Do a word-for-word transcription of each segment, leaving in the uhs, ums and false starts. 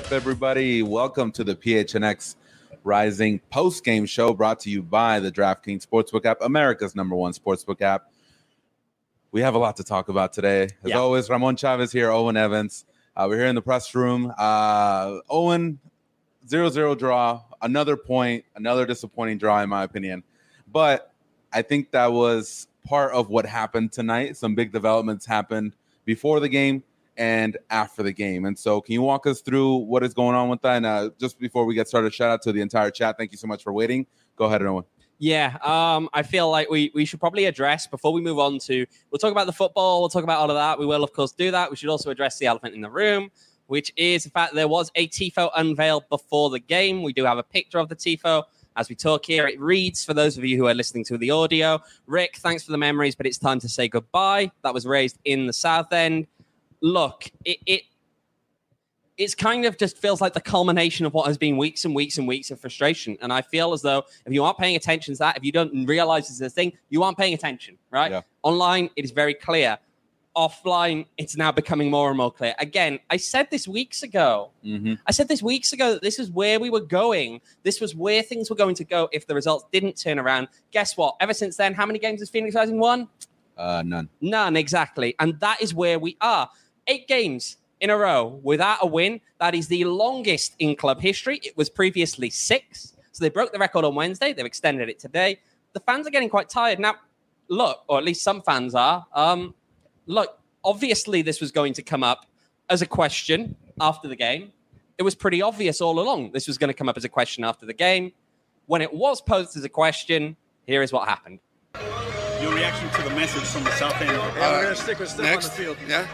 up, everybody? Welcome to the P H N X Rising post-game show brought to you by the DraftKings Sportsbook app, America's number one sportsbook app. We have a lot to talk about today. As yeah. always, Ramon Chavez here, Owen Evans. Uh, we're here in the press room. Uh, Owen, zero zero draw, another point, another disappointing draw, in my opinion. But I think that was part of what happened tonight. Some big developments happened before the game and after the game. And so can you walk us through what is going on with that? And uh, just before we get started, shout out to the entire chat. Thank you so much for waiting. Go ahead, Owen. Yeah, um, I feel like we, we should probably address, before we move on to, we'll talk about the football, we'll talk about all of that. We will, of course, do that. We should also address the elephant in the room, which is the fact that there was a TIFO unveiled before the game. We do have a picture of the TIFO. As we talk here, it reads, for those of you who are listening to the audio, Rick, thanks for the memories, but it's time to say goodbye. That was raised in the South End. Look, it, it it's kind of just feels like the culmination of what has been weeks and weeks and weeks of frustration. And I feel as though if you aren't paying attention to that, if you don't realize it's a thing, you aren't paying attention, right? Yeah. Online, it is very clear. Offline, it's now becoming more and more clear. Again, I said this weeks ago. Mm-hmm. I said this weeks ago that this is where we were going. This was where things were going to go if the results didn't turn around. Guess what? Ever since then, how many games has Phoenix Rising won? Uh, none. None, exactly. And that is where we are. Eight games in a row without a win. That is the longest in club history. It was previously six. So they broke the record on Wednesday. They've extended it today. The fans are getting quite tired. Now, look, or at least some fans are. Um, look, obviously this was going to come up as a question after the game. It was pretty obvious all along this was going to come up as a question after the game. When it was posed as a question, here is what happened. Your reaction to the message from the South End? Yeah, uh, we're going to stick with stuff next. On the field. Yeah.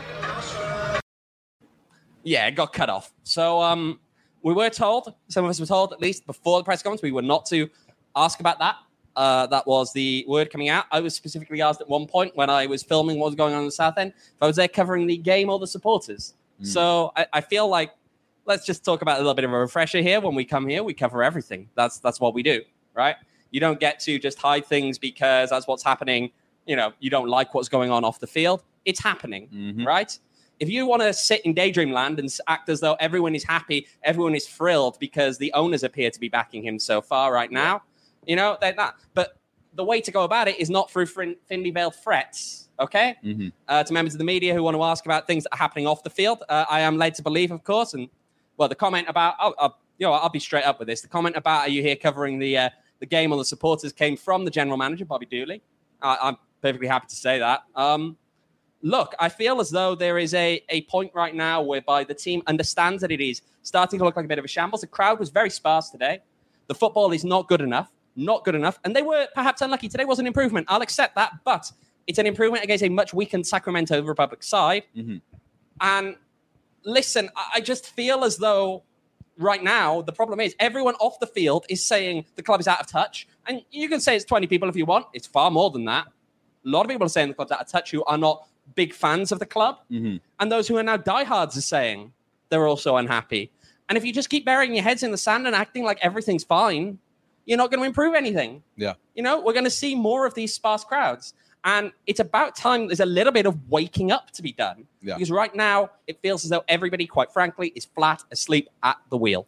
Yeah, it got cut off. So um, we were told, some of us were told, at least before the press conference, we were not to ask about that. Uh, that was the word coming out. I was specifically asked at one point when I was filming what was going on in the South End, if I was there covering the game or the supporters. Mm. So I, I feel like let's just talk about a little bit of a refresher here. When we come here, we cover everything. That's that's what we do, right? You don't get to just hide things because that's what's happening. You know, you don't like what's going on off the field. It's happening, mm-hmm. right? If you want to sit in daydream land and act as though everyone is happy, everyone is thrilled because the owners appear to be backing him so far right now, you know, they're not. But the way to go about it is not through thinly veiled threats, okay? Mm-hmm. Uh, to members of the media who want to ask about things that are happening off the field, uh, I am led to believe, of course, and, well, the comment about, I'll, I'll, you know, I'll be straight up with this. The comment about, are you here covering the uh, the game or the supporters came from the general manager, Bobby Dooley. Uh, I'm perfectly happy to say that. Um, Look, I feel as though there is a, a point right now whereby the team understands that it is starting to look like a bit of a shambles. The crowd was very sparse today. The football is not good enough, not good enough. And they were perhaps unlucky. Today was an improvement. I'll accept that. But it's an improvement against a much weakened Sacramento Republic side. Mm-hmm. And listen, I just feel as though right now the problem is everyone off the field is saying the club is out of touch. And you can say it's twenty people if you want. It's far more than that. A lot of people are saying the club's out of touch who are not big fans of the club. Mm-hmm. And those who are now diehards are saying they're also unhappy. And if you just keep burying your heads in the sand and acting like everything's fine, you're not going to improve anything. Yeah. You know, we're going to see more of these sparse crowds. And it's about time there's a little bit of waking up to be done. Yeah. Because right now, it feels as though everybody, quite frankly, is flat asleep at the wheel.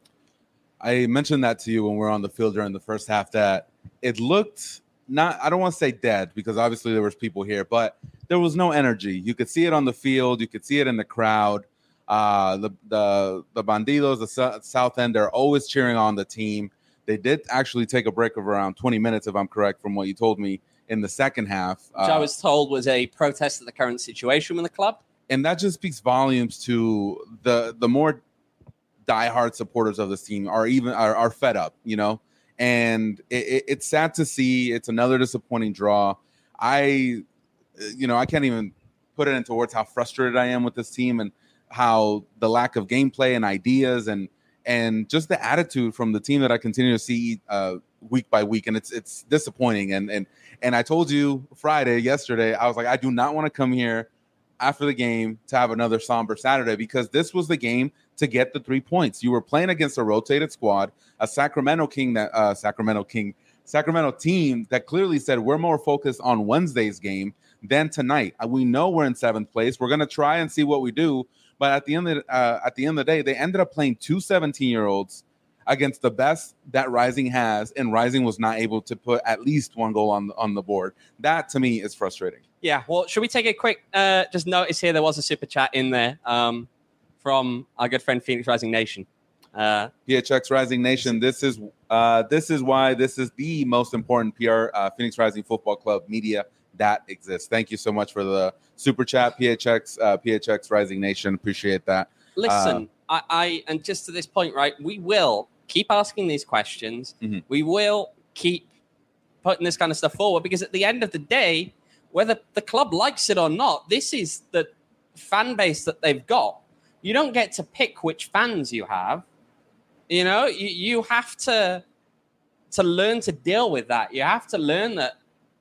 I mentioned that to you when we were on the field during the first half, that it looked not, I don't want to say dead, because obviously there was people here, but there was no energy. You could see it on the field. You could see it in the crowd. Uh, the the the Bandidos, the South End, they're always cheering on the team. They did actually take a break of around twenty minutes, if I'm correct, from what you told me in the second half. Which uh, I was told was a protest at the current situation with the club. And that just speaks volumes to the the more diehard supporters of this team are even are, are fed up, you know. And it, it, it's sad to see. It's another disappointing draw. I, you know, I can't even put it into words how frustrated I am with this team and how the lack of gameplay and ideas and and just the attitude from the team that I continue to see uh, week by week. And it's it's disappointing. And and and I told you Friday, yesterday, I was like, I do not want to come here after the game to have another somber Saturday, because this was the game to get the three points. You were playing against a rotated squad, a Sacramento King that uh, Sacramento King, Sacramento team that clearly said we're more focused on Wednesday's game than tonight. We know we're in seventh place. We're going to try and see what we do, But at the end of the, uh, at the end of the day, they ended up playing two seventeen-year-olds against the best that Rising has, and Rising was not able to put at least one goal on the, on the board. That, to me, is frustrating. Yeah, well, should we take a quick uh, just notice here? There was a super chat in there um, from our good friend Phoenix Rising Nation. Uh, P H X Rising Nation, this is uh, this is why this is the most important P R uh, Phoenix Rising Football Club media that exists. Thank you so much for the super chat, P H X uh, P H X Rising Nation. Appreciate that. Listen, Uh, I, I and just to this point, right? We will keep asking these questions. Mhm. We will keep putting this kind of stuff forward because at the end of the day, whether the club likes it or not, this is the fan base that they've got. You don't get to pick which fans you have. You know, you, you have to to learn to deal with that. You have to learn that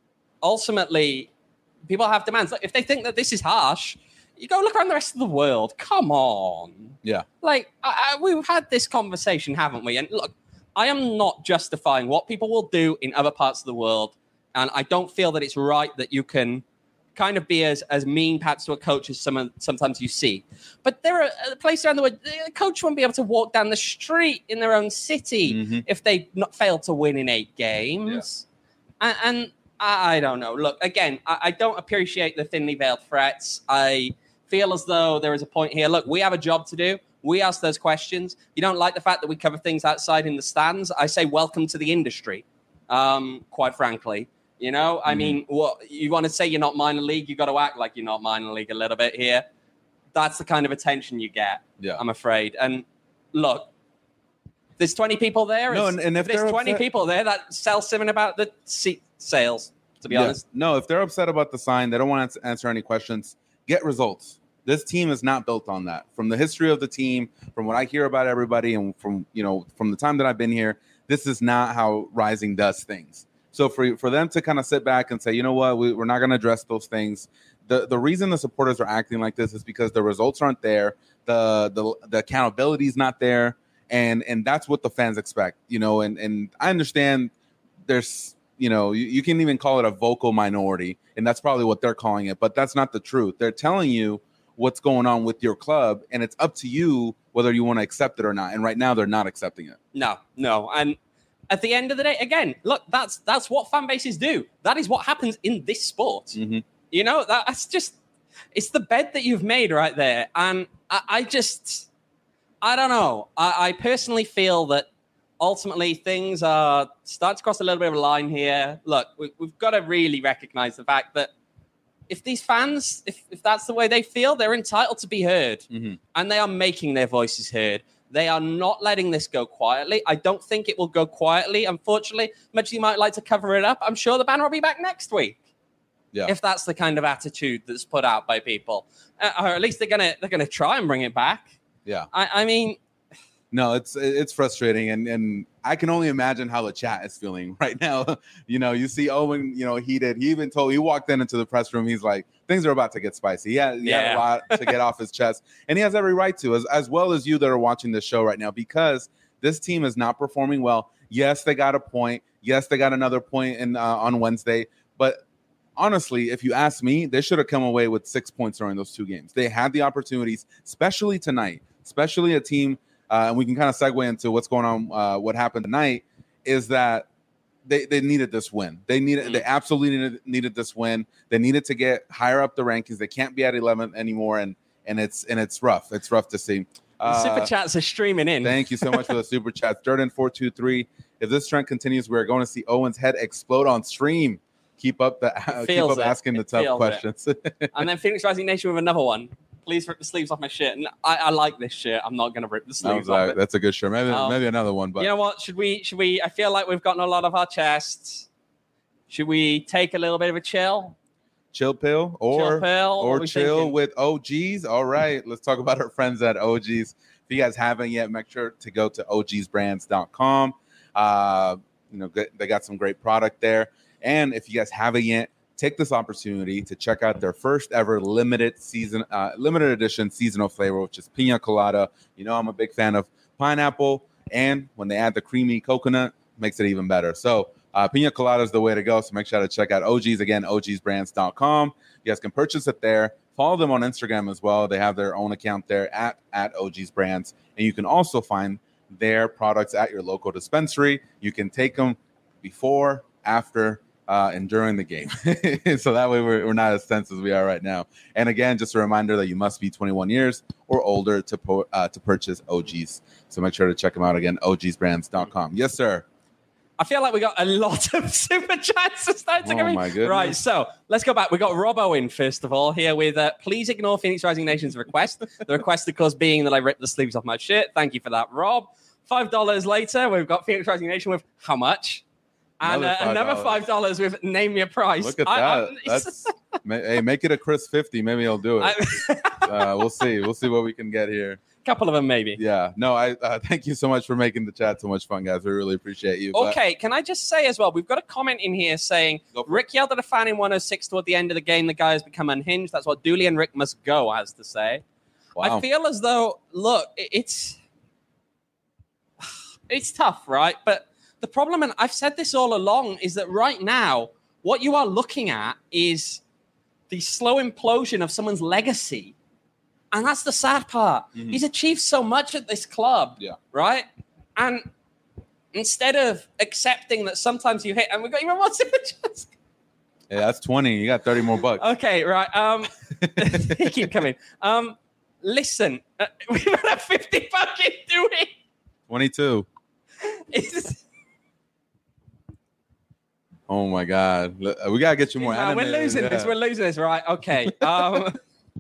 ultimately people have demands. Like, if they think that this is harsh, you go look around the rest of the world. Come on. Yeah. Like, I, I, we've had this conversation, haven't we? And look, I am not justifying what people will do in other parts of the world. And I don't feel that it's right that you can kind of be as, as mean perhaps to a coach as some, sometimes you see. But there are places around the world, a coach won't be able to walk down the street in their own city Mhm. if they not failed to win in eight games. And, and I, I don't know. Look, again, I, I don't appreciate the thinly veiled threats. I feel as though there is a point here. Look, we have a job to do. We ask those questions. You don't like the fact that we cover things outside in the stands. I say welcome to the industry, um, quite frankly. You know, I Mhm. mean, what you want to say you're not minor league, you got to act like you're not minor league a little bit here. That's the kind of attention you get, Yeah. I'm afraid. And look, there's twenty people there. No, It's- and- and if there's they're twenty upset- people there, that sells something about the seat sales, to be Yeah. honest. No, if they're upset about the sign, they don't want to answer any questions. Get results. This team is not built on that. From the history of the team, from what I hear about everybody, and from you know from the time that I've been here, this is not how Rising does things. So for for them to kind of sit back and say, you know what, we, we're not going to address those things. The the reason the supporters are acting like this is because the results aren't there, the the the accountability is not there, and and that's what the fans expect. You know, and and I understand there's. You know, you, you can even call it a vocal minority, and that's probably what they're calling it, but that's not the truth. They're telling you what's going on with your club, and it's up to you whether you want to accept it or not. And right now, they're not accepting it. No, no. And at the end of the day, again, look, that's that's what fan bases do. That is what happens in this sport. Mhm. You know, that, that's just, it's the bed that you've made right there. And I, I just, I don't know. I, I personally feel that ultimately things are starting to cross a little bit of a line here. Look, we, we've got to really recognize the fact that if these fans, if, if that's the way they feel, they're entitled to be heard. Mhm. And they are making their voices heard. They are not letting this go quietly. I don't think it will go quietly. Unfortunately, much as you might like to cover it up, I'm sure the banner will be back next week. Yeah. If that's the kind of attitude that's put out by people, uh, or at least they're gonna they're gonna try and bring it back. Yeah. I, I mean, No, it's it's frustrating, and and I can only imagine how the chat is feeling right now. You know, you see Owen, you know, he did. He even told, he walked in into the press room. He's like, things are about to get spicy. He had, he had Yeah. a lot to get off his chest, and he has every right to, as, as well as you that are watching this show right now, because this team is not performing well. Yes, they got a point. Yes, they got another point in uh, on Wednesday, but honestly, if you ask me, they should have come away with six points during those two games. They had the opportunities, especially tonight, especially a team. Uh, and we can kind of segue into what's going on. Uh, what happened tonight is that they, they needed this win. They needed, Mm. they absolutely needed, needed this win. They needed to get higher up the rankings. They can't be at eleventh anymore, and and it's and it's rough. It's rough to see. the Uh, super chats are streaming in. Thank you so much for the super chats, Jordan four two three. If this trend continues, we're going to see Owen's head explode on stream. Keep up the keep feels up it. asking the It tough feels it. questions. And then Phoenix Rising Nation with another one. Please rip the sleeves off my shirt. And I, I like this shirt. I'm not going to rip the That sleeves was, off uh, it. that's a good shirt. Maybe Um, maybe another one, but You know what? Should we? Should we? I feel like we've gotten a lot of our chests. Should we take a little bit of a chill? chill pill or chill pill? What or we chill thinking? with O Gs. All right, let's talk about our friends at O Gs. If you guys haven't yet, make sure to go to O Gs brands dot com. Uh, you know, get- they got some great product there. And if you guys haven't yet, take this opportunity to check out their first ever limited season, uh, limited edition seasonal flavor, which is pina colada. You know, I'm a big fan of pineapple, and when they add the creamy coconut, makes it even better. So uh, pina colada is the way to go. So make sure to check out O Gs again, O Gs brands dot com. You guys can purchase it there. Follow them on Instagram as well. They have their own account there at, at O G's Brands. And you can also find their products at your local dispensary. You can take them before, after, uh, and during the game. So that way we're, we're not as tense as we are right now. And again, just a reminder that you must be twenty-one years or older to po- uh, to purchase O G's. So make sure to check them out again, O Gs brands dot com. Yes, sir. I feel like we got a lot of super chats to start to Oh, come in. my goodness. Right, so let's go back. We got Robbo in, first of all, here with uh, please ignore Phoenix Rising Nation's request. The request, of course, being that I ripped the sleeves off my shirt. Thank you for that, Rob. Five dollars later, we've got Phoenix Rising Nation with how much? And Another uh, another five dollars with name your price. Look at I- that. I- That's ma- hey, make it a Chris fifty. Maybe he'll do it. uh, we'll see. We'll see what we can get here. couple of them, maybe. Yeah. No, I uh, thank you so much for making the chat so much fun, guys. We really appreciate you. But- Okay, can I just say as well, we've got a comment in here saying Go for it. Rick yelled at a fan in one oh six toward the end of the game. The guy has become unhinged. That's what Dooley and Rick must go has to say. Wow. I feel as though, look, it- it's it's tough, right? But the problem, and I've said this all along, is that right now, what you are looking at is the slow implosion of someone's legacy. And that's the sad part. Mhm. He's achieved so much at this club, Yeah. right? And instead of accepting that sometimes you hit, and we've got even more super chats. Yeah, that's twenty. You got thirty more bucks. Okay, right. Um, they keep coming. Um, listen, uh, we've had a fifty fucking doing. twenty-two. It's, Oh my God. L- We gotta get you more. no, we're animated. losing Yeah. this. We're losing this. Right. Okay. Um,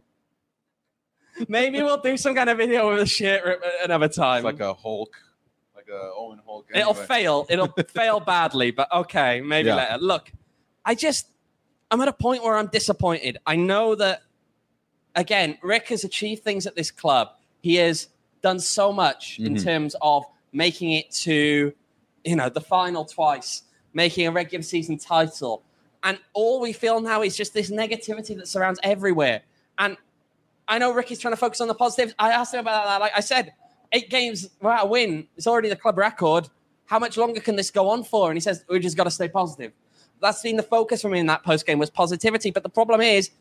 maybe we'll do some kind of video with a shit rip another time. It's like a Hulk, like a Owen Hulk. It'll Anyway. fail. It'll fail badly, but okay, maybe Yeah. later. Look, I just, I'm at a point where I'm disappointed. I know that, again, Rick has achieved things at this club. He has done so much in Mhm. terms of making it to, you know, the final twice, making a regular season title. And all we feel now is just this negativity that surrounds everywhere. And I know Rick is trying to focus on the positives. I asked him about that. Like I said, eight games without a win. It's already the club record. How much longer can this go on for? And he says, we just got to stay positive. That's been the focus for me in that post game was positivity. But the problem is,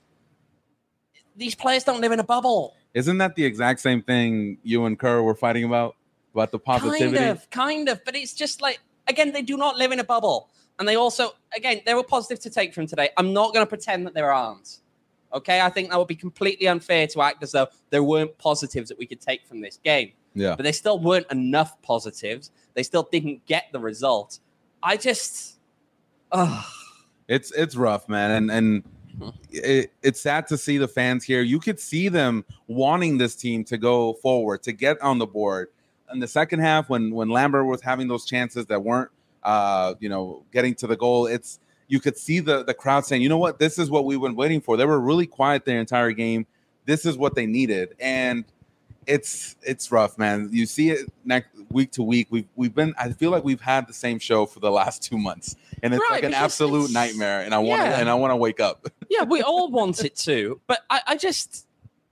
these players don't live in a bubble. Isn't that the exact same thing you and Kerr were fighting about? About the positivity? Kind of, kind of. But it's just like, again, they do not live in a bubble. And they also, again, there were positives to take from today. I'm not going to pretend that there aren't. Okay? I think that would be completely unfair to act as though there weren't positives that we could take from this game. Yeah. But there still weren't enough positives. They still didn't get the result. I just, oh, It's it's rough, man, and and it, it's sad to see the fans here. You could see them wanting this team to go forward, to get on the board. In the second half, when when Lambert was having those chances that weren't, uh, you know, getting to the goal, it's you could see the the crowd saying, you know what, this is what we've been waiting for. They were really quiet the entire game. This is what they needed, and it's it's rough, man. You see it next week to week. We've we've been. I feel like we've had the same show for the last two months, and it's Right, like an because absolute it's- nightmare. And I want to yeah. and I want to wake up. yeah, we all want it to. But I, I just,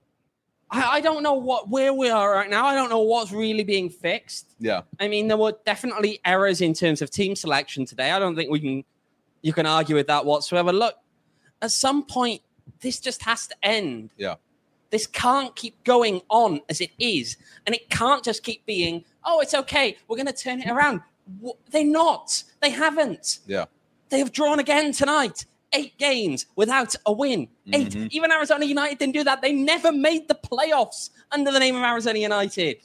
I, I don't know what where we are right now. I don't know what's really being fixed. Yeah, I mean, there were definitely errors in terms of team selection today. I don't think we can, you can argue with that whatsoever. Look, at some point, this just has to end. yeah, This can't keep going on as it is. And it can't just keep being, oh, it's okay. We're going to turn it around. W- They're not. They haven't. yeah. They have drawn again tonight. Eight games without a win. Eight. Mhm. Even Arizona United didn't do that. They never made the playoffs under the name of Arizona United.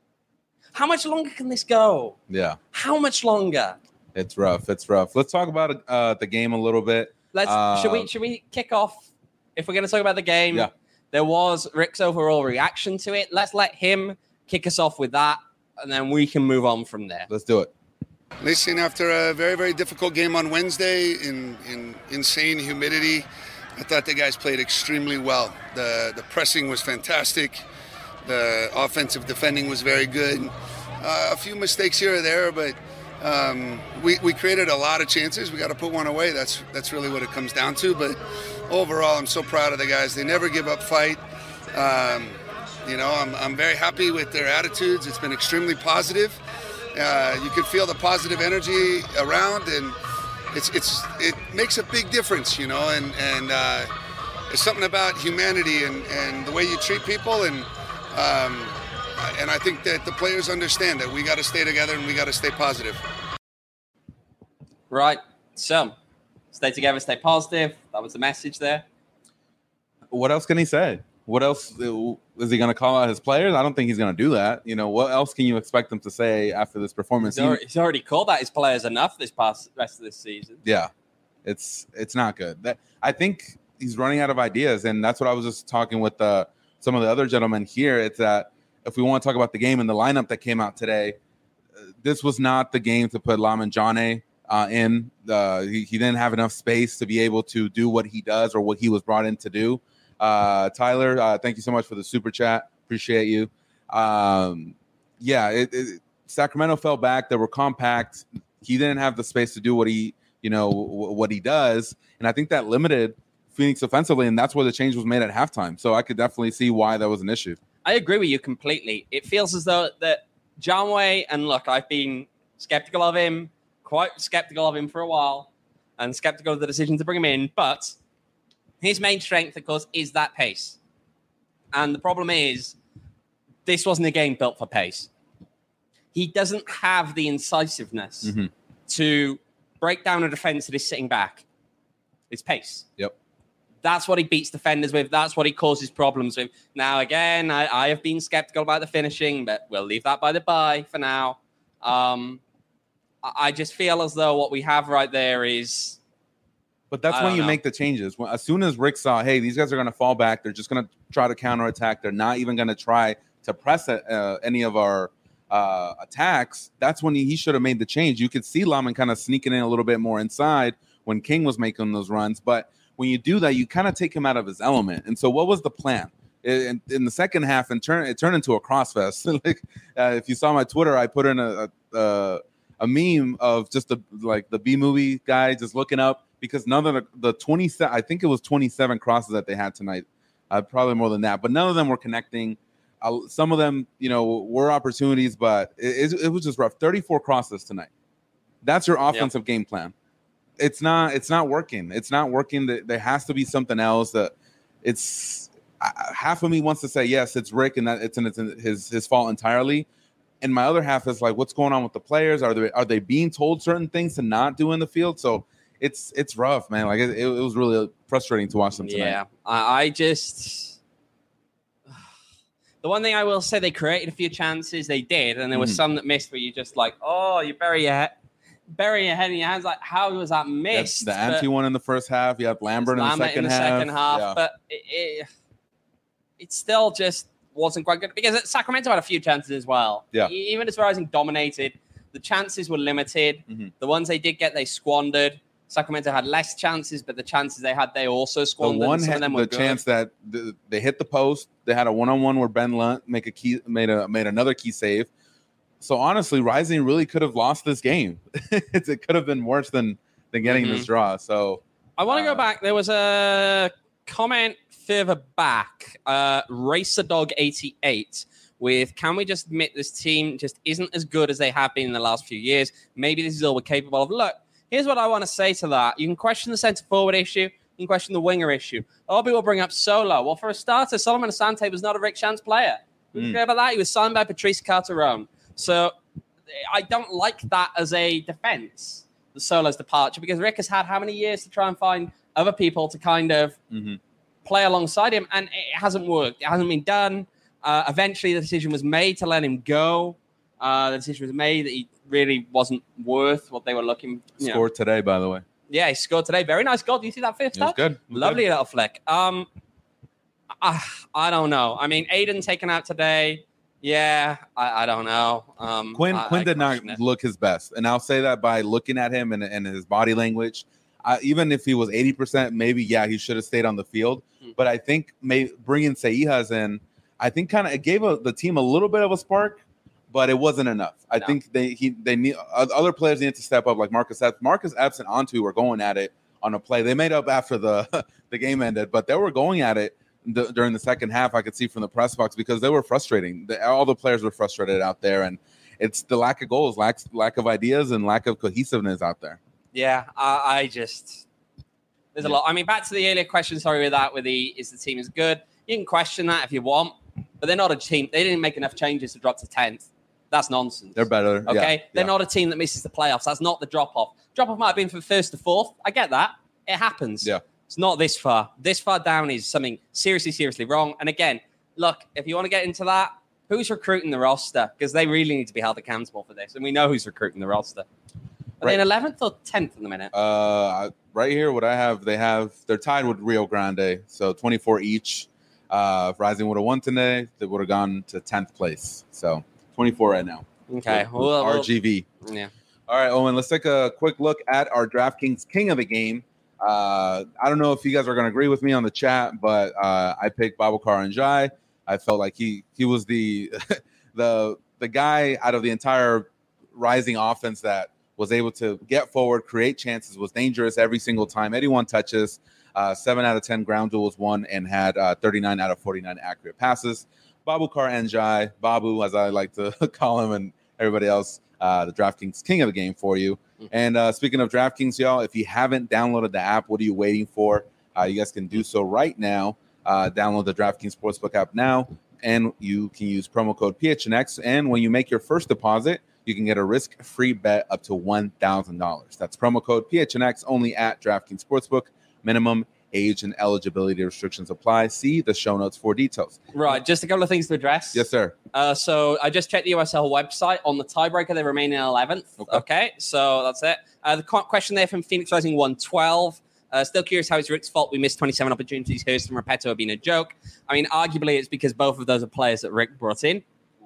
How much longer can this go? Yeah, How much longer? it's rough. It's rough. Let's talk about uh, the game a little bit. Let's Uh, should we should we kick off if we're going to talk about the game? Yeah. There was Rick's overall reaction to it. Let's let him kick us off with that, and then we can move on from there. Let's do it. Listen, after a very, very difficult game on Wednesday in, in insane humidity, I thought the guys played extremely well. The the pressing was fantastic. The offensive defending was very good. Uh, a few mistakes here or there, but um, we, we created a lot of chances. We got to put one away. That's that's really what it comes down to. But overall, I'm so proud of the guys. They never give up fight. Um, you know, I'm, I'm very happy with their attitudes. It's been extremely positive. Uh, you can feel the positive energy around, and it's it's it makes a big difference, you know. And and uh, it's something about humanity and, and the way you treat people, and um, and I think that the players understand that we got to stay together and we got to stay positive. Right. So, stay together, stay positive. That was the message there. What else can he say? What else is he going to call out his players? I don't think he's going to do that. You know, what else can you expect him to say after this performance? He's already, he's already called out his players enough this past rest of this season. Yeah, it's it's not good. That I think he's running out of ideas, and that's what I was just talking with uh, some of the other gentlemen here. It's that if we want to talk about the game and the lineup that came out today, uh, this was not the game to put Lamine Jané uh, in. Uh, he, he didn't have enough space to be able to do what he does or what he was brought in to do. Uh, Tyler, uh, thank you so much for the super chat. Appreciate you. Um, yeah, it, it, Sacramento fell back. They were compact. He didn't have the space to do what he, you know, w- what he does, and I think that limited Phoenix offensively, and that's where the change was made at halftime. So I could definitely see why that was an issue. I agree with you completely. It feels as though that Janway, and look, I've been skeptical of him, quite skeptical of him for a while, and skeptical of the decision to bring him in, but his main strength, of course, is that pace. And the problem is, this wasn't a game built for pace. He doesn't have the incisiveness mm-hmm. to break down a defense that is sitting back. It's pace. Yep. That's what he beats defenders with. That's what he causes problems with. Now, again, I, I have been skeptical about the finishing, but we'll leave that by the by for now. Um, I, I just feel as though what we have right there is... But that's when you know. make the changes. When, as soon as Rick saw, hey, these guys are going to fall back. They're just going to try to counterattack. They're not even going to try to press uh, any of our uh, attacks. That's when he, he should have made the change. You could see Lamine kind of sneaking in a little bit more inside when King was making those runs. But when you do that, you kind of take him out of his element. And so what was the plan? In, in the second half, and turn, it turned into a crossfest. like uh, if you saw my Twitter, I put in a, a, a meme of just the like the B-movie guy just looking up, because none of the, the twenty-seven, I think it was twenty-seven crosses that they had tonight, uh, probably more than that, but none of them were connecting. Uh, some of them, you know, were opportunities, but it, it, it was just rough. thirty-four crosses tonight. That's your offensive yep. game plan. It's not, it's not working. It's not working. There has to be something else. That it's uh, half of me wants to say yes, it's Rick, and that it's, and it's his his fault entirely. And my other half is like, what's going on with the players? Are they are they being told certain things to not do in the field? So. It's it's rough, man. Like it, it was really frustrating to watch them tonight. Yeah, I, I just the one thing I will say, they created a few chances. They did, and there was mm. some that missed. Where you just like, oh, you bury your head, bury your head in your hands. Like, how was that missed? That's the Ante one in the first half. You have Lambert in the second in the half. Second half, yeah. but it, it it still just wasn't quite good because Sacramento had a few chances as well. Yeah, even as Rising dominated, the chances were limited. Mm-hmm. The ones they did get, they squandered. Sacramento had less chances, but the chances they had, they also squandered. The one Some had of them were the good. chance that the, they hit the post. They had a one-on-one where Ben Lunt make a key, made a made another key save. So honestly, Rising really could have lost this game. It could have been worse than than getting mm-hmm. this draw. So I want to uh, go back. There was a comment further back, uh, Racer Dog eighty-eight. With, can we just admit this team just isn't as good as they have been in the last few years? Maybe this is all we're capable of. Look. Here's what I want to say to that. You can question the center forward issue. You can question the winger issue. A lot of people bring up Solo. Well, for a starter, Solomon Asante was not a Rick Chance player. We mm. forget about that. He was signed by Patrice Carteron. So I don't like that as a defense, the Solo's departure, because Rick has had how many years to try and find other people to kind of mm-hmm. play alongside him, and it hasn't worked. It hasn't been done. Uh, eventually, the decision was made to let him go. Uh, the decision was made that he really wasn't worth what they were looking. You scored know. today, by the way. Yeah, he scored today. Very nice goal. Do you see that first touch? Good. Lovely good. little flick. Um, I, I don't know. I mean, Aiden taken out today. Yeah, I, I don't know. Um, Quinn I, Quinn I did not it. look his best, and I'll say that by looking at him and, and his body language. I, even if he was eighty percent, maybe yeah, he should have stayed on the field. Mm-hmm. But I think may, bringing Seijas in, I think kind of it gave a, the team a little bit of a spark. But it wasn't enough. I no. think they he they need other players need to step up, like Marcus Epps. Marcus Epps and Antu were going at it on a play. They made up after the the game ended, but they were going at it the, during the second half. I could see from the press box because they were frustrating. The, all the players were frustrated out there, and it's the lack of goals, lack lack of ideas, and lack of cohesiveness out there. Yeah, I, I just There's a Yeah. lot. I mean, back to the earlier question, sorry with that, with the, is the team as good? You can question that if you want, but they're not a team. They didn't make enough changes to drop to tenth. That's nonsense. They're better. Okay? Yeah, They're yeah. not a team that misses the playoffs. That's not the drop-off. Drop-off might have been from first to fourth. I get that. It happens. Yeah. It's not this far. This far down is something seriously, seriously wrong. And again, look, if you want to get into that, who's recruiting the roster? Because they really need to be held accountable for this. And we know who's recruiting the roster. Are they in eleventh or tenth in the minute? Uh, right here, what I have, they have, they're tied with Rio Grande. So twenty-four each. Uh, if Rising would have won today, they would have gone to tenth place. So twenty-four right now. Okay. With- with Well, well, R G V. yeah. All right, Owen, let's take a quick look at our DraftKings King of the Game. Uh, I don't know if you guys are going to agree with me on the chat, but uh, I picked Babacar Njai. I felt like he he was the the the guy out of the entire Rising offense that was able to get forward, create chances, was dangerous every single time. eighty-one touches, uh, seven out of ten ground duels won, and had uh, thirty-nine out of forty-nine accurate passes. Babacar Njai, Babu, as I like to call him, and everybody else, uh, the DraftKings King of the Game for you. And uh, speaking of DraftKings, y'all, if you haven't downloaded the app, what are you waiting for? Uh, you guys can do so right now. Uh, download the DraftKings Sportsbook app now, and you can use promo code P H N X. And when you make your first deposit, you can get a risk-free bet up to one thousand dollars. That's promo code P H N X only at DraftKings Sportsbook. Minimum age and eligibility restrictions apply. See the show notes for details. Right. Just a couple of things to address. Yes, sir. Uh, so I just checked the U S L website. On the tiebreaker, they remain in eleventh. Okay. Okay. So that's it. Uh, the co- question there from Phoenix Rising one twelve. Uh, still curious how it's Rick's fault we missed twenty-seven opportunities. Hurst and Repetto have been a joke. I mean, arguably, it's because both of those are players that Rick brought in.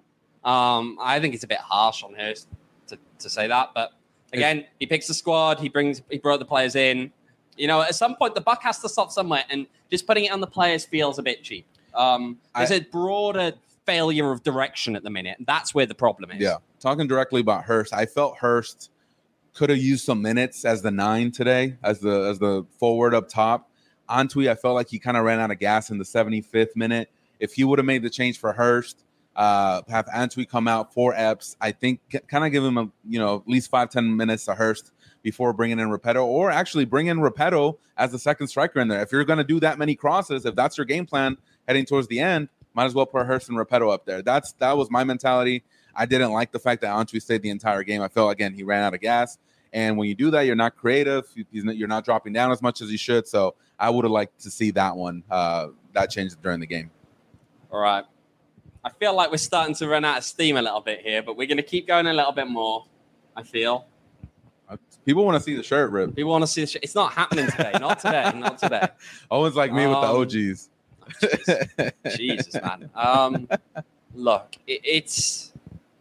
Um, I think it's a bit harsh on Hurst to, to say that. But again, he picks the squad. He brings, he brought the players in. You know, at some point, the buck has to stop somewhere, and just putting it on the players feels a bit cheap. Um, there's I- a broader failure of direction at the minute. That's where the problem is. Yeah. Talking directly about Hurst, I felt Hurst could have used some minutes as the nine today, as the as the forward up top. Antwi, I felt like he kind of ran out of gas in the seventy-fifth minute. If he would have made the change for Hurst, uh, have Antwi come out for Epps, I think kind of give him a you know at least five ten minutes to Hurst before bringing in Repetto, or actually bring in Repetto as the second striker in there. If you're going to do that many crosses, if that's your game plan heading towards the end, might as well put Hurst and Repetto up there. That's that was my mentality. I didn't like the fact that Antwi stayed the entire game. I felt, again, he ran out of gas. And when you do that, you're not creative. You're not dropping down as much as you should. So I would have liked to see that one, uh, that change during the game. All right. I feel like we're starting to run out of steam a little bit here, but we're going to keep going a little bit more, I feel. People want to see the shirt rip. People want to see the sh- It's not happening today. Not today. Not today. Owen's like me Um, with the O Gs. Jesus, Jesus man. Um, look, it, it's...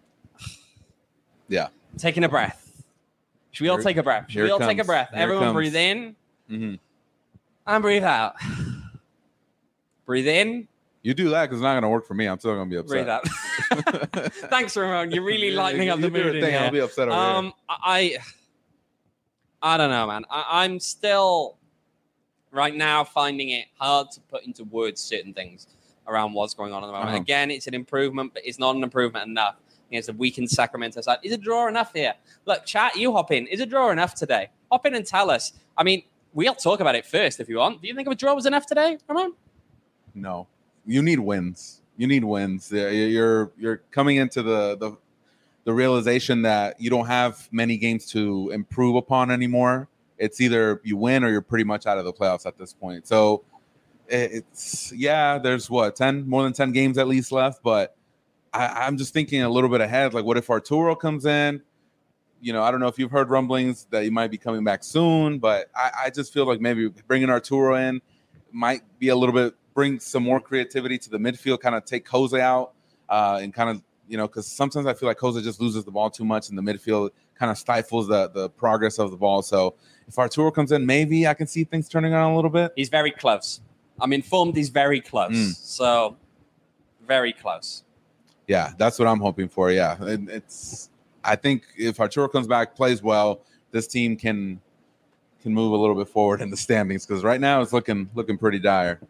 Yeah. Taking a breath. Should we all Here- take a breath? Should here we it all take a comes. breath? Here it Everyone comes. breathe in Mm-hmm. and breathe out. Breathe in, You do that because it's not going to work for me. I'm still going to be breathe upset. out. Thanks, Ramon. You're really lightening You up the do your mood in thing, I'll here. be upset over here. Um, I, I don't know, man. I, I'm still right now finding it hard to put into words certain things around what's going on at the moment. Uh-huh. Again, it's an improvement, but it's not an improvement enough. It's a weakened Sacramento side. Is a draw enough here? Look, chat, you hop in. Is a draw enough today? Hop in and tell us. I mean, we'll talk about it first if you want. Do you think a draw was enough today, Ramon? No, you need wins. You need wins. Yeah, You're you're coming into the the the realization that you don't have many games to improve upon anymore. It's either you win or you're pretty much out of the playoffs at this point. So it's yeah, there's what ten more than ten games at least left, but I, I'm just thinking a little bit ahead. Like, what if Arturo comes in? You know, I don't know if you've heard rumblings that he might be coming back soon, but I, I just feel like maybe bringing Arturo in might be a little bit, bring some more creativity to the midfield, kind of take Jose out uh, and kind of, you know, because sometimes I feel like Jose just loses the ball too much in the midfield, kind of stifles the, the progress of the ball. So if Arturo comes in, maybe I can see things turning on a little bit. He's very close. I'm informed he's very close. Mm. So, very close. Yeah, that's what I'm hoping for. Yeah, it, it's. I think if Arturo comes back, plays well, this team can can move a little bit forward in the standings because right now it's looking looking pretty dire.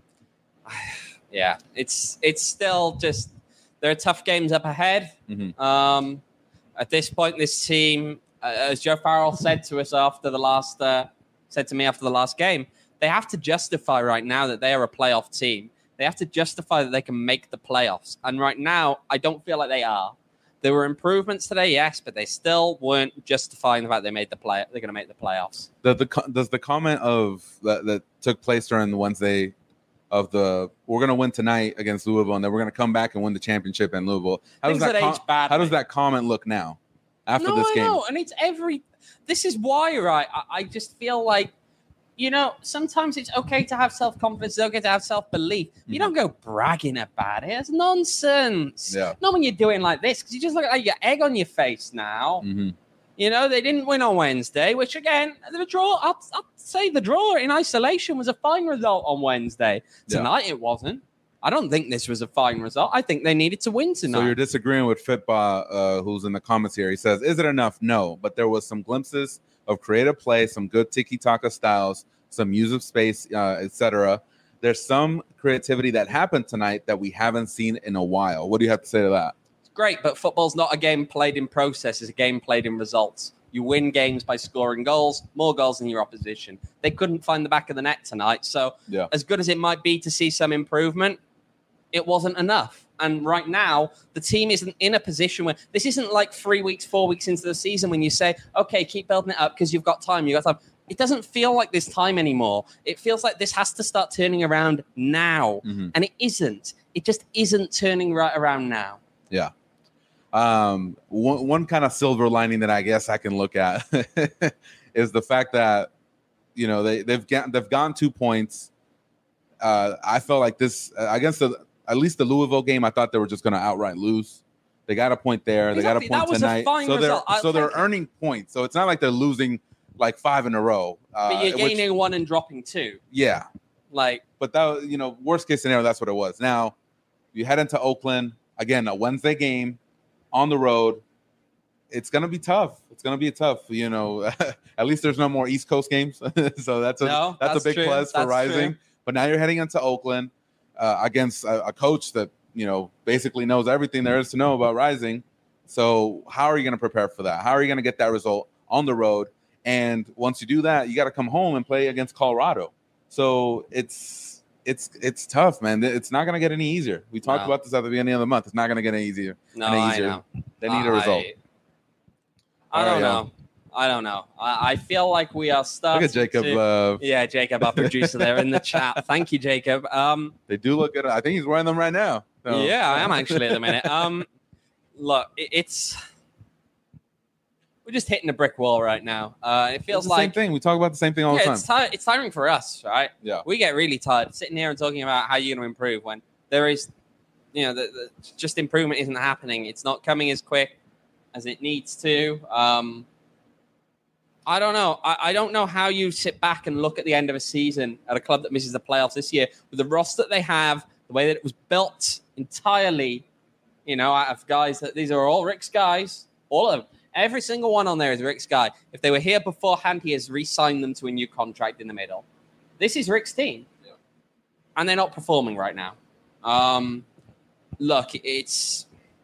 Yeah, it's it's still just there are tough games up ahead. Mhm. Um, at this point, this team, uh, as Joe Farrell said to us after the last uh, said to me after the last game, they have to justify right now that they are a playoff team. They have to justify that they can make the playoffs. And right now, I don't feel like they are. There were improvements today, yes, but they still weren't justifying the fact they made the play. They're going to make the playoffs. The, the, does the comment of that, that took place during the Wednesday of the we're going to win tonight against Louisville and then we're going to come back and win the championship in Louisville. How Things does that, that com- age badly. How does that comment look now after no, this I game? know. And it's every. This is why, right? I, I just feel like, you know, sometimes it's okay to have self-confidence. It's okay to have self-belief. Mm-hmm. You don't go bragging about it. It's nonsense. Yeah. Not when you're doing like this, because you just look like you got egg on your face now. Mm-hmm. You know, they didn't win on Wednesday, which, again, the draw, I'll, I'll say the draw in isolation was a fine result on Wednesday. Tonight yeah. it wasn't. I don't think this was a fine result. I think they needed to win tonight. So you're disagreeing with Fitba, uh, who's in the comments here. He says, is it enough? No, but there was some glimpses of creative play, some good tiki-taka styles, some use of space, uh, et cetera. There's some creativity that happened tonight that we haven't seen in a while. What do you have to say to that? It's great, but football's not a game played in process. It's a game played in results. You win games by scoring goals, more goals than your opposition. They couldn't find the back of the net tonight. So yeah. as good as it might be to see some improvement, it wasn't enough. And right now, the team isn't in a position where this isn't like three weeks, four weeks into the season when you say, okay, keep building it up because you've got time. You've got time. It doesn't feel like this time anymore. It feels like this has to start turning around now. Mm-hmm. And it isn't. It just isn't turning right around now. Yeah. Um, one, one kind of silver lining that I guess I can look at is the fact that, you know, they, they've, got, they've gone two points. Uh, I felt like this uh, against the, at least the Louisville game, I thought they were just going to outright lose. They got a point there. Exactly. They got a point tonight. A so result. they're so they're earning points. So it's not like they're losing like five in a row. Uh, but you're gaining which, one and dropping two. Yeah. Like, but that, you know, worst case scenario, that's what it was. Now you head into Oakland again, a Wednesday game on the road. It's going to be tough. It's going to be tough. You know, at least there's no more East Coast games. so that's a, no, that's, that's a big true. plus for that's Rising. True. But now you're heading into Oakland uh, against a, a coach that, you know, basically knows everything there is to know about Rising. So how are you going to prepare for that? How are you going to get that result on the road? And once you do that, you got to come home and play against Colorado. So it's it's it's tough, man. It's not going to get any easier. We talked no. about this at the beginning of the month. It's not going to get any easier. No, any easier. I know. They need uh, a result. I, I don't right, know. I don't know. I, I feel like we are starting. Look at Jacob. To, uh, yeah, Jacob, our producer there in the chat. Thank you, Jacob. Um, they do look good. I think he's wearing them right now. So. Yeah, I am actually at the minute. Um, look, it, it's we're just hitting a brick wall right now. Uh, it feels it's the like same thing. We talk about the same thing all yeah, the time. It's, tir- it's tiring for us, right? Yeah, we get really tired sitting here and talking about how you're going to improve when there is, you know, the, the, just improvement isn't happening. It's not coming as quick as it needs to. Um, I don't know. I, I don't know how you sit back and look at the end of a season at a club that misses the playoffs this year with the roster that they have, the way that it was built entirely, you know, out of guys that these are all Rick's guys, all of them. Every single one on there is Rick's guy. If they were here beforehand, he has re-signed them to a new contract in the middle. This is Rick's team. Yeah. And they're not performing right now. Um, look, it's...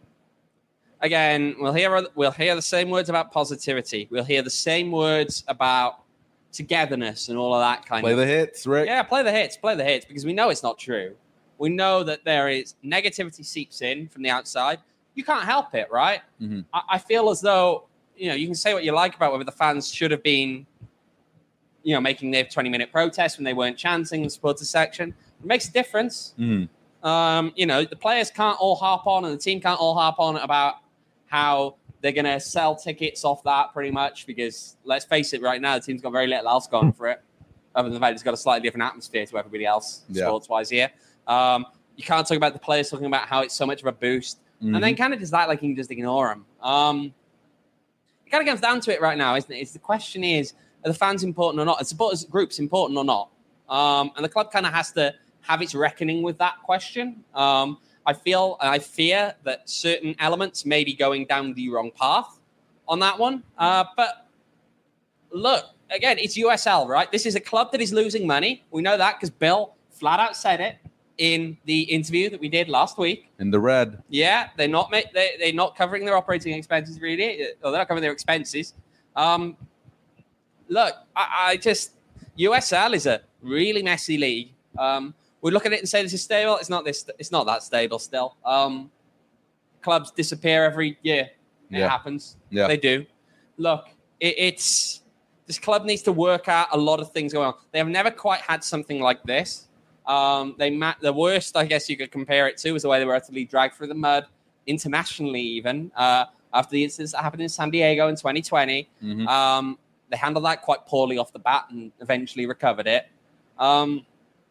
Again, we'll hear we'll hear the same words about positivity. We'll hear the same words about togetherness and all of that kind play of... Play the hits, Rick. Yeah, play the hits, play the hits, because we know it's not true. We know that there is negativity seeps in from the outside. You can't help it, right? Mm-hmm. I, I feel as though, you know, you can say what you like about whether the fans should have been, you know, making their twenty-minute protest when they weren't chanting in the supporters section. It makes a difference. Mm-hmm. Um, you know, the players can't all harp on and the team can't all harp on about how they're going to sell tickets off that pretty much because, let's face it, right now, the team's got very little else going for it, other than the fact it's got a slightly different atmosphere to everybody else, yeah. sports-wise here. Um, you can't talk about the players talking about how it's so much of a boost. Mm-hmm. And then kind of just that, like, you can just ignore them. Um, it kind of comes down to it right now, isn't it? It's the question is, are the fans important or not? Are the supporters groups important or not? Um, and the club kind of has to have its reckoning with that question. Um, I feel, I fear that certain elements may be going down the wrong path on that one. Uh, but look, again, it's U S L, right? This is a club that is losing money. We know that because Bill flat out said it in the interview that we did last week. In the red. Yeah, they're not they, they're not covering their operating expenses really, or they're not covering their expenses. Um, look, I, I just U S L is a really messy league. Um, we look at it and say this is stable. It's not this. It's not that stable still. Um, clubs disappear every year. It Yeah. happens. Yeah. They do. Look, it, it's this club needs to work out a lot of things going on. They have never quite had something like this. Um, they ma- the worst, I guess you could compare it to, is the way they were utterly dragged through the mud internationally, even uh, after the incidents that happened in San Diego in twenty twenty. Mhm. Um, they handled that quite poorly off the bat and eventually recovered it. Um,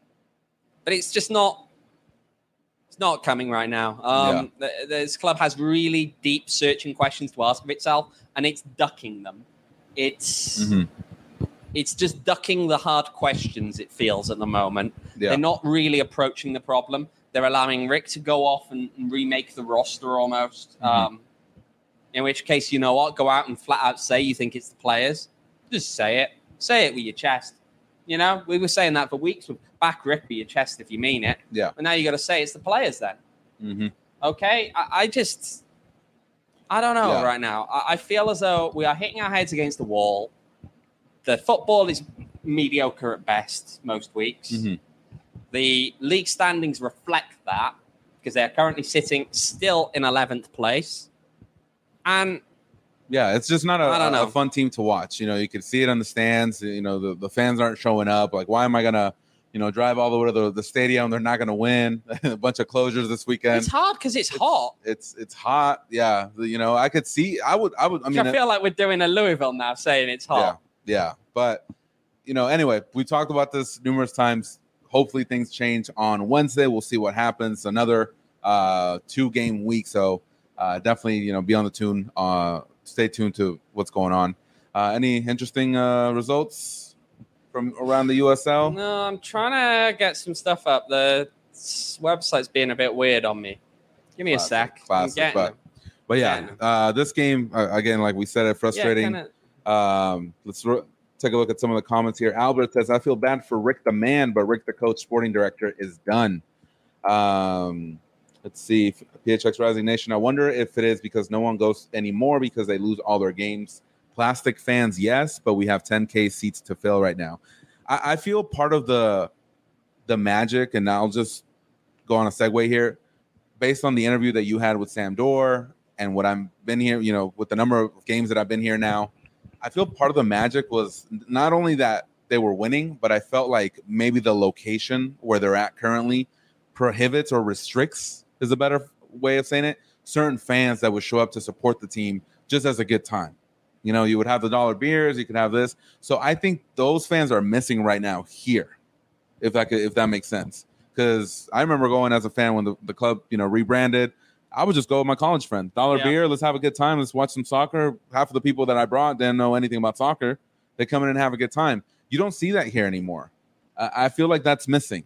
but it's just not. It's not coming right now. Um, th- this club has really deep searching questions to ask of itself, and it's ducking them. It's Mhm. it's just ducking the hard questions, it feels, at the moment. Yeah. They're not really approaching the problem. They're allowing Rick to go off and, and remake the roster almost. Mhm. Um, in which case, you know what? Go out and flat out say you think it's the players. Just say it. Say it with your chest. You know, we were saying that for weeks. Back Rick with your chest if you mean it. Yeah. But now you got to say it's the players then. Mm-hmm. Okay? I, I just, I don't know Yeah. right now. I, I feel as though we are hitting our heads against the wall. The football is mediocre at best most weeks. Mhm. The league standings reflect that because they're currently sitting still in eleventh place. And Yeah, it's just not a, I don't a- know. a fun team to watch. You know, you can see it on the stands. You know, the, the fans aren't showing up. Like, why am I gonna, you know, drive all the way to the, the stadium? They're not gonna win. A bunch of closures this weekend. it's hard because it's, hot. It's it's hot. Yeah, the- you know, I could see. I would. I would. I I, mean, feel like we're doing a Louisville now saying it's hot. yeah, yeah. But you know, anyway, we talked about this numerous times. Hopefully, things change on Wednesday. We'll see what happens. Another uh, two game week, so uh, definitely, you know, be on the tune. Uh, stay tuned to what's going on. Uh, any interesting uh, results from around the U S L? No, I'm trying to get some stuff up. The s- website's being a bit weird on me. Give me Classic, a sec. I'm classic, getting but- them. But yeah, Yeah. uh, this game uh, again, like we said, it frustrating. Yeah, kinda- Um, let's ro- take a look at some of the comments here. Albert says, I feel bad for Rick the man, but Rick the coach, sporting director, is done. Um, let's see. P H X Rising Nation. I wonder if it is because no one goes anymore because they lose all their games. Plastic fans, yes, but we have ten K seats to fill right now. I, I feel part of the the magic, and I'll just go on a segue here. Based on the interview that you had with Sam Dorr and what I've been here, you know, with the number of games that I've been here now, I feel part of the magic was not only that they were winning, but I felt like maybe the location where they're at currently prohibits or restricts, is a better way of saying it, certain fans that would show up to support the team just as a good time. You know, you would have the dollar beers, you could have this. So I think those fans are missing right now here, if that could, if that makes sense. Because I remember going as a fan when the, the club, you know, rebranded. I would just go with my college friend. Dollar Yeah. beer, let's have a good time. Let's watch some soccer. Half of the people that I brought didn't know anything about soccer. They come in and have a good time. You don't see that here anymore. I, I feel like that's missing.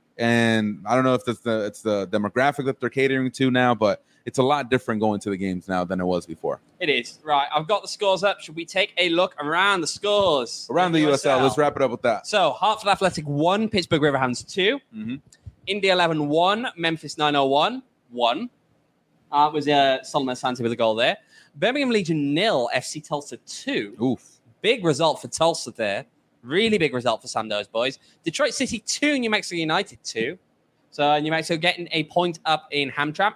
And I don't know if that's the it's the demographic that they're catering to now, but it's a lot different going to the games now than it was before. It is. Right. I've got the scores up. Should we take a look around the scores? Around the in U S L, let's wrap it up with that. So, Hartford Athletic one, Pittsburgh Riverhounds two, Mhm. Indy eleven one, Memphis nine oh one one. Uh, it was uh, Solomon Asante with a goal there. Birmingham Legion nil, F C Tulsa two. Oof. Big result for Tulsa there. Really big result for Sandoz boys. Detroit City two, New Mexico United two. So New Mexico getting a point up in Hamtramck.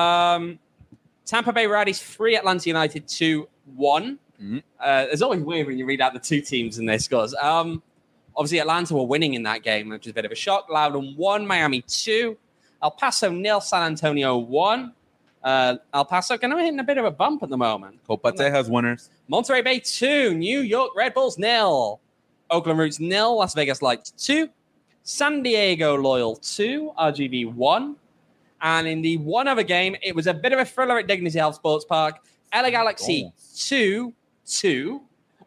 Um, Tampa Bay Rowdies three, Atlanta United two one. Mhm. Uh, it's always weird when you read out the two teams and their scores. Um, obviously, Atlanta were winning in that game, which is a bit of a shock. Loudon one, Miami two. El Paso nil, San Antonio one. Uh, El Paso kind of hitting a bit of a bump at the moment. Copate has winners. Monterey Bay two, New York Red Bulls nil, Oakland Roots nil, Las Vegas Lights two, San Diego Loyal two, R G V one. And in the one other game, it was a bit of a thriller at Dignity Health Sports Park. L A Galaxy two two.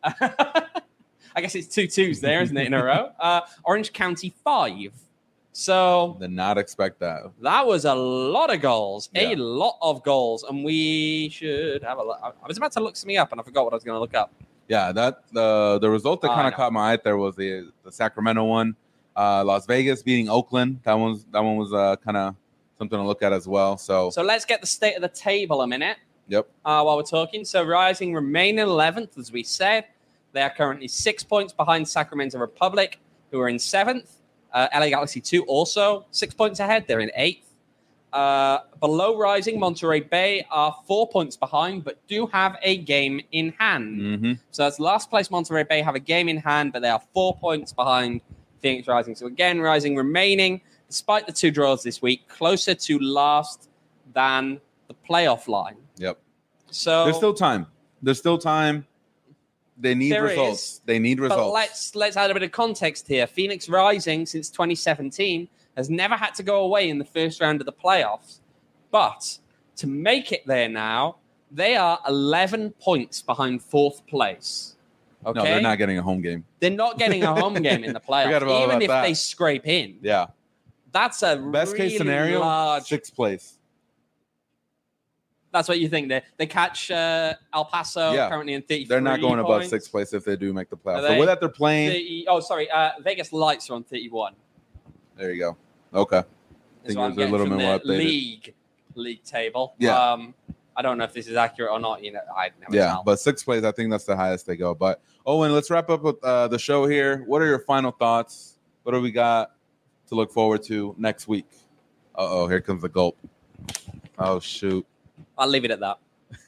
I guess it's two twos there, isn't it, in a row? Uh, Orange County five. So Did not expect that. that was a lot of goals, Yeah. a lot of goals, and we should have a look. I was about to look something up, and I forgot what I was going to look up. Yeah, that the the result that I kind of know. caught my eye there was the the Sacramento one, uh, Las Vegas beating Oakland. That one's that one was uh, kind of something to look at as well. So, So let's get the state of the table a minute yep, uh, while we're talking. So Rising remain in eleventh, as we said. They are currently six points behind Sacramento Republic, who are in seventh. Uh, L A Galaxy two also six points ahead. They're in eighth. Uh, below Rising, Monterey Bay are four points behind, but do have a game in hand. Mm-hmm. So that's last place. Monterey Bay have a game in hand, but they are four points behind Phoenix Rising. So again, Rising remaining, despite the two draws this week, closer to last than the playoff line. Yep. So There's still time. There's still time. They need There results. is, They need results. But let's let's add a bit of context here. Phoenix Rising since twenty seventeen has never had to go away in the first round of the playoffs. But to make it there now, they are eleven points behind fourth place. Okay? No, they're not getting a home game. They're not getting a home game in the Forgot playoffs, about even if that. they scrape in. Yeah. That's a Best really case scenario, large. sixth place. That's what you think. They they catch uh, El Paso Yeah. currently in thirty-three. They're not going above points. sixth place if they do make the playoffs. Are The they? way that they're playing, thirty, oh, sorry. Uh, Vegas Lights are on thirty-one. there you go. Okay. Is think what I'm it was a getting little from bit the more updated. league league table. Yeah. Um, I don't know if this is accurate or not. You know, I never Yeah, tell. but sixth place, I think that's the highest they go. But Owen, let's wrap up with uh, the show here. What are your final thoughts? What do we got to look forward to next week? Uh oh, here comes the gulp. Oh shoot. I'll leave it at that.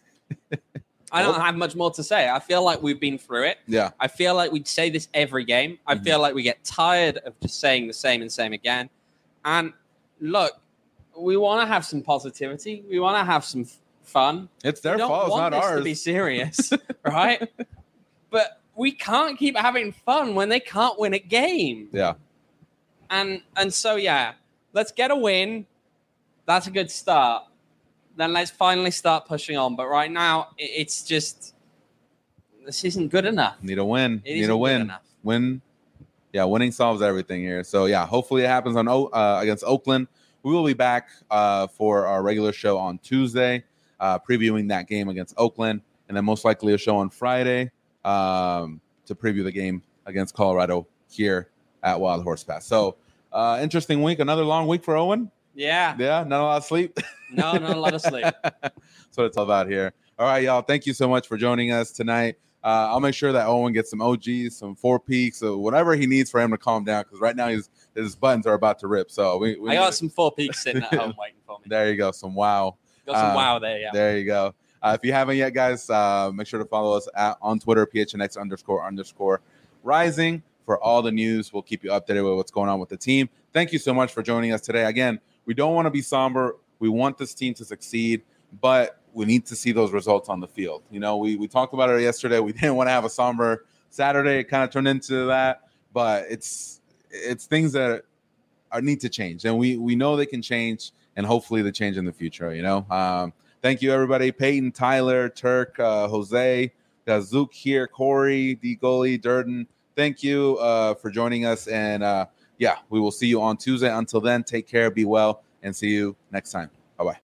I don't have much more to say. I feel like we've been through it. Yeah. I feel like we'd say this every game. I Mhm. feel like we get tired of just saying the same and same again. And look, we want to have some positivity. We want to have some f- fun. It's their we don't fault, it's want not this ours. to be serious, right? But we can't keep having fun when they can't win a game. Yeah. And and so yeah, let's get a win. That's a good start. Then let's finally start pushing on. But right now, i- it's just this isn't good enough. Need a win. It Need isn't a good win. enough. Win. Yeah, winning solves everything here. So yeah, hopefully it happens on O- uh, against Oakland. We will be back uh, for our regular show on Tuesday, uh, previewing that game against Oakland, and then most likely a show on Friday um, to preview the game against Colorado here at Wild Horse Pass. So uh, interesting week, another long week for Owen. Yeah. Yeah, not a lot of sleep. No, not a lot of sleep. That's what it's all about here. All right, y'all. Thank you so much for joining us tonight. Uh, I'll make sure that Owen gets some O Gs, some four peaks, or whatever he needs for him to calm down. Because right now his his buttons are about to rip. So we, we I got some four peaks sitting at home waiting for me. there you go. Some wow. Got some uh, wow there, yeah. There you go. Uh, if you haven't yet, guys, uh, make sure to follow us at, on Twitter, P H N X underscore underscore rising for all the news. We'll keep you updated with what's going on with the team. Thank you so much for joining us today. Again, we don't want to be somber. We want this team to succeed, but we need to see those results on the field. You know, we, we talked about it yesterday. We didn't want to have a somber Saturday. It kind of turned into that, but it's it's things that are need to change, and we we know they can change, and hopefully they change in the future. You know, um, thank you everybody: Peyton, Tyler, Turk, uh, Jose, got Zook here, Corey, D Goalie, Durden. Thank you uh, for joining us, and uh, yeah, we will see you on Tuesday. Until then, take care, be well, and see you next time. Bye bye.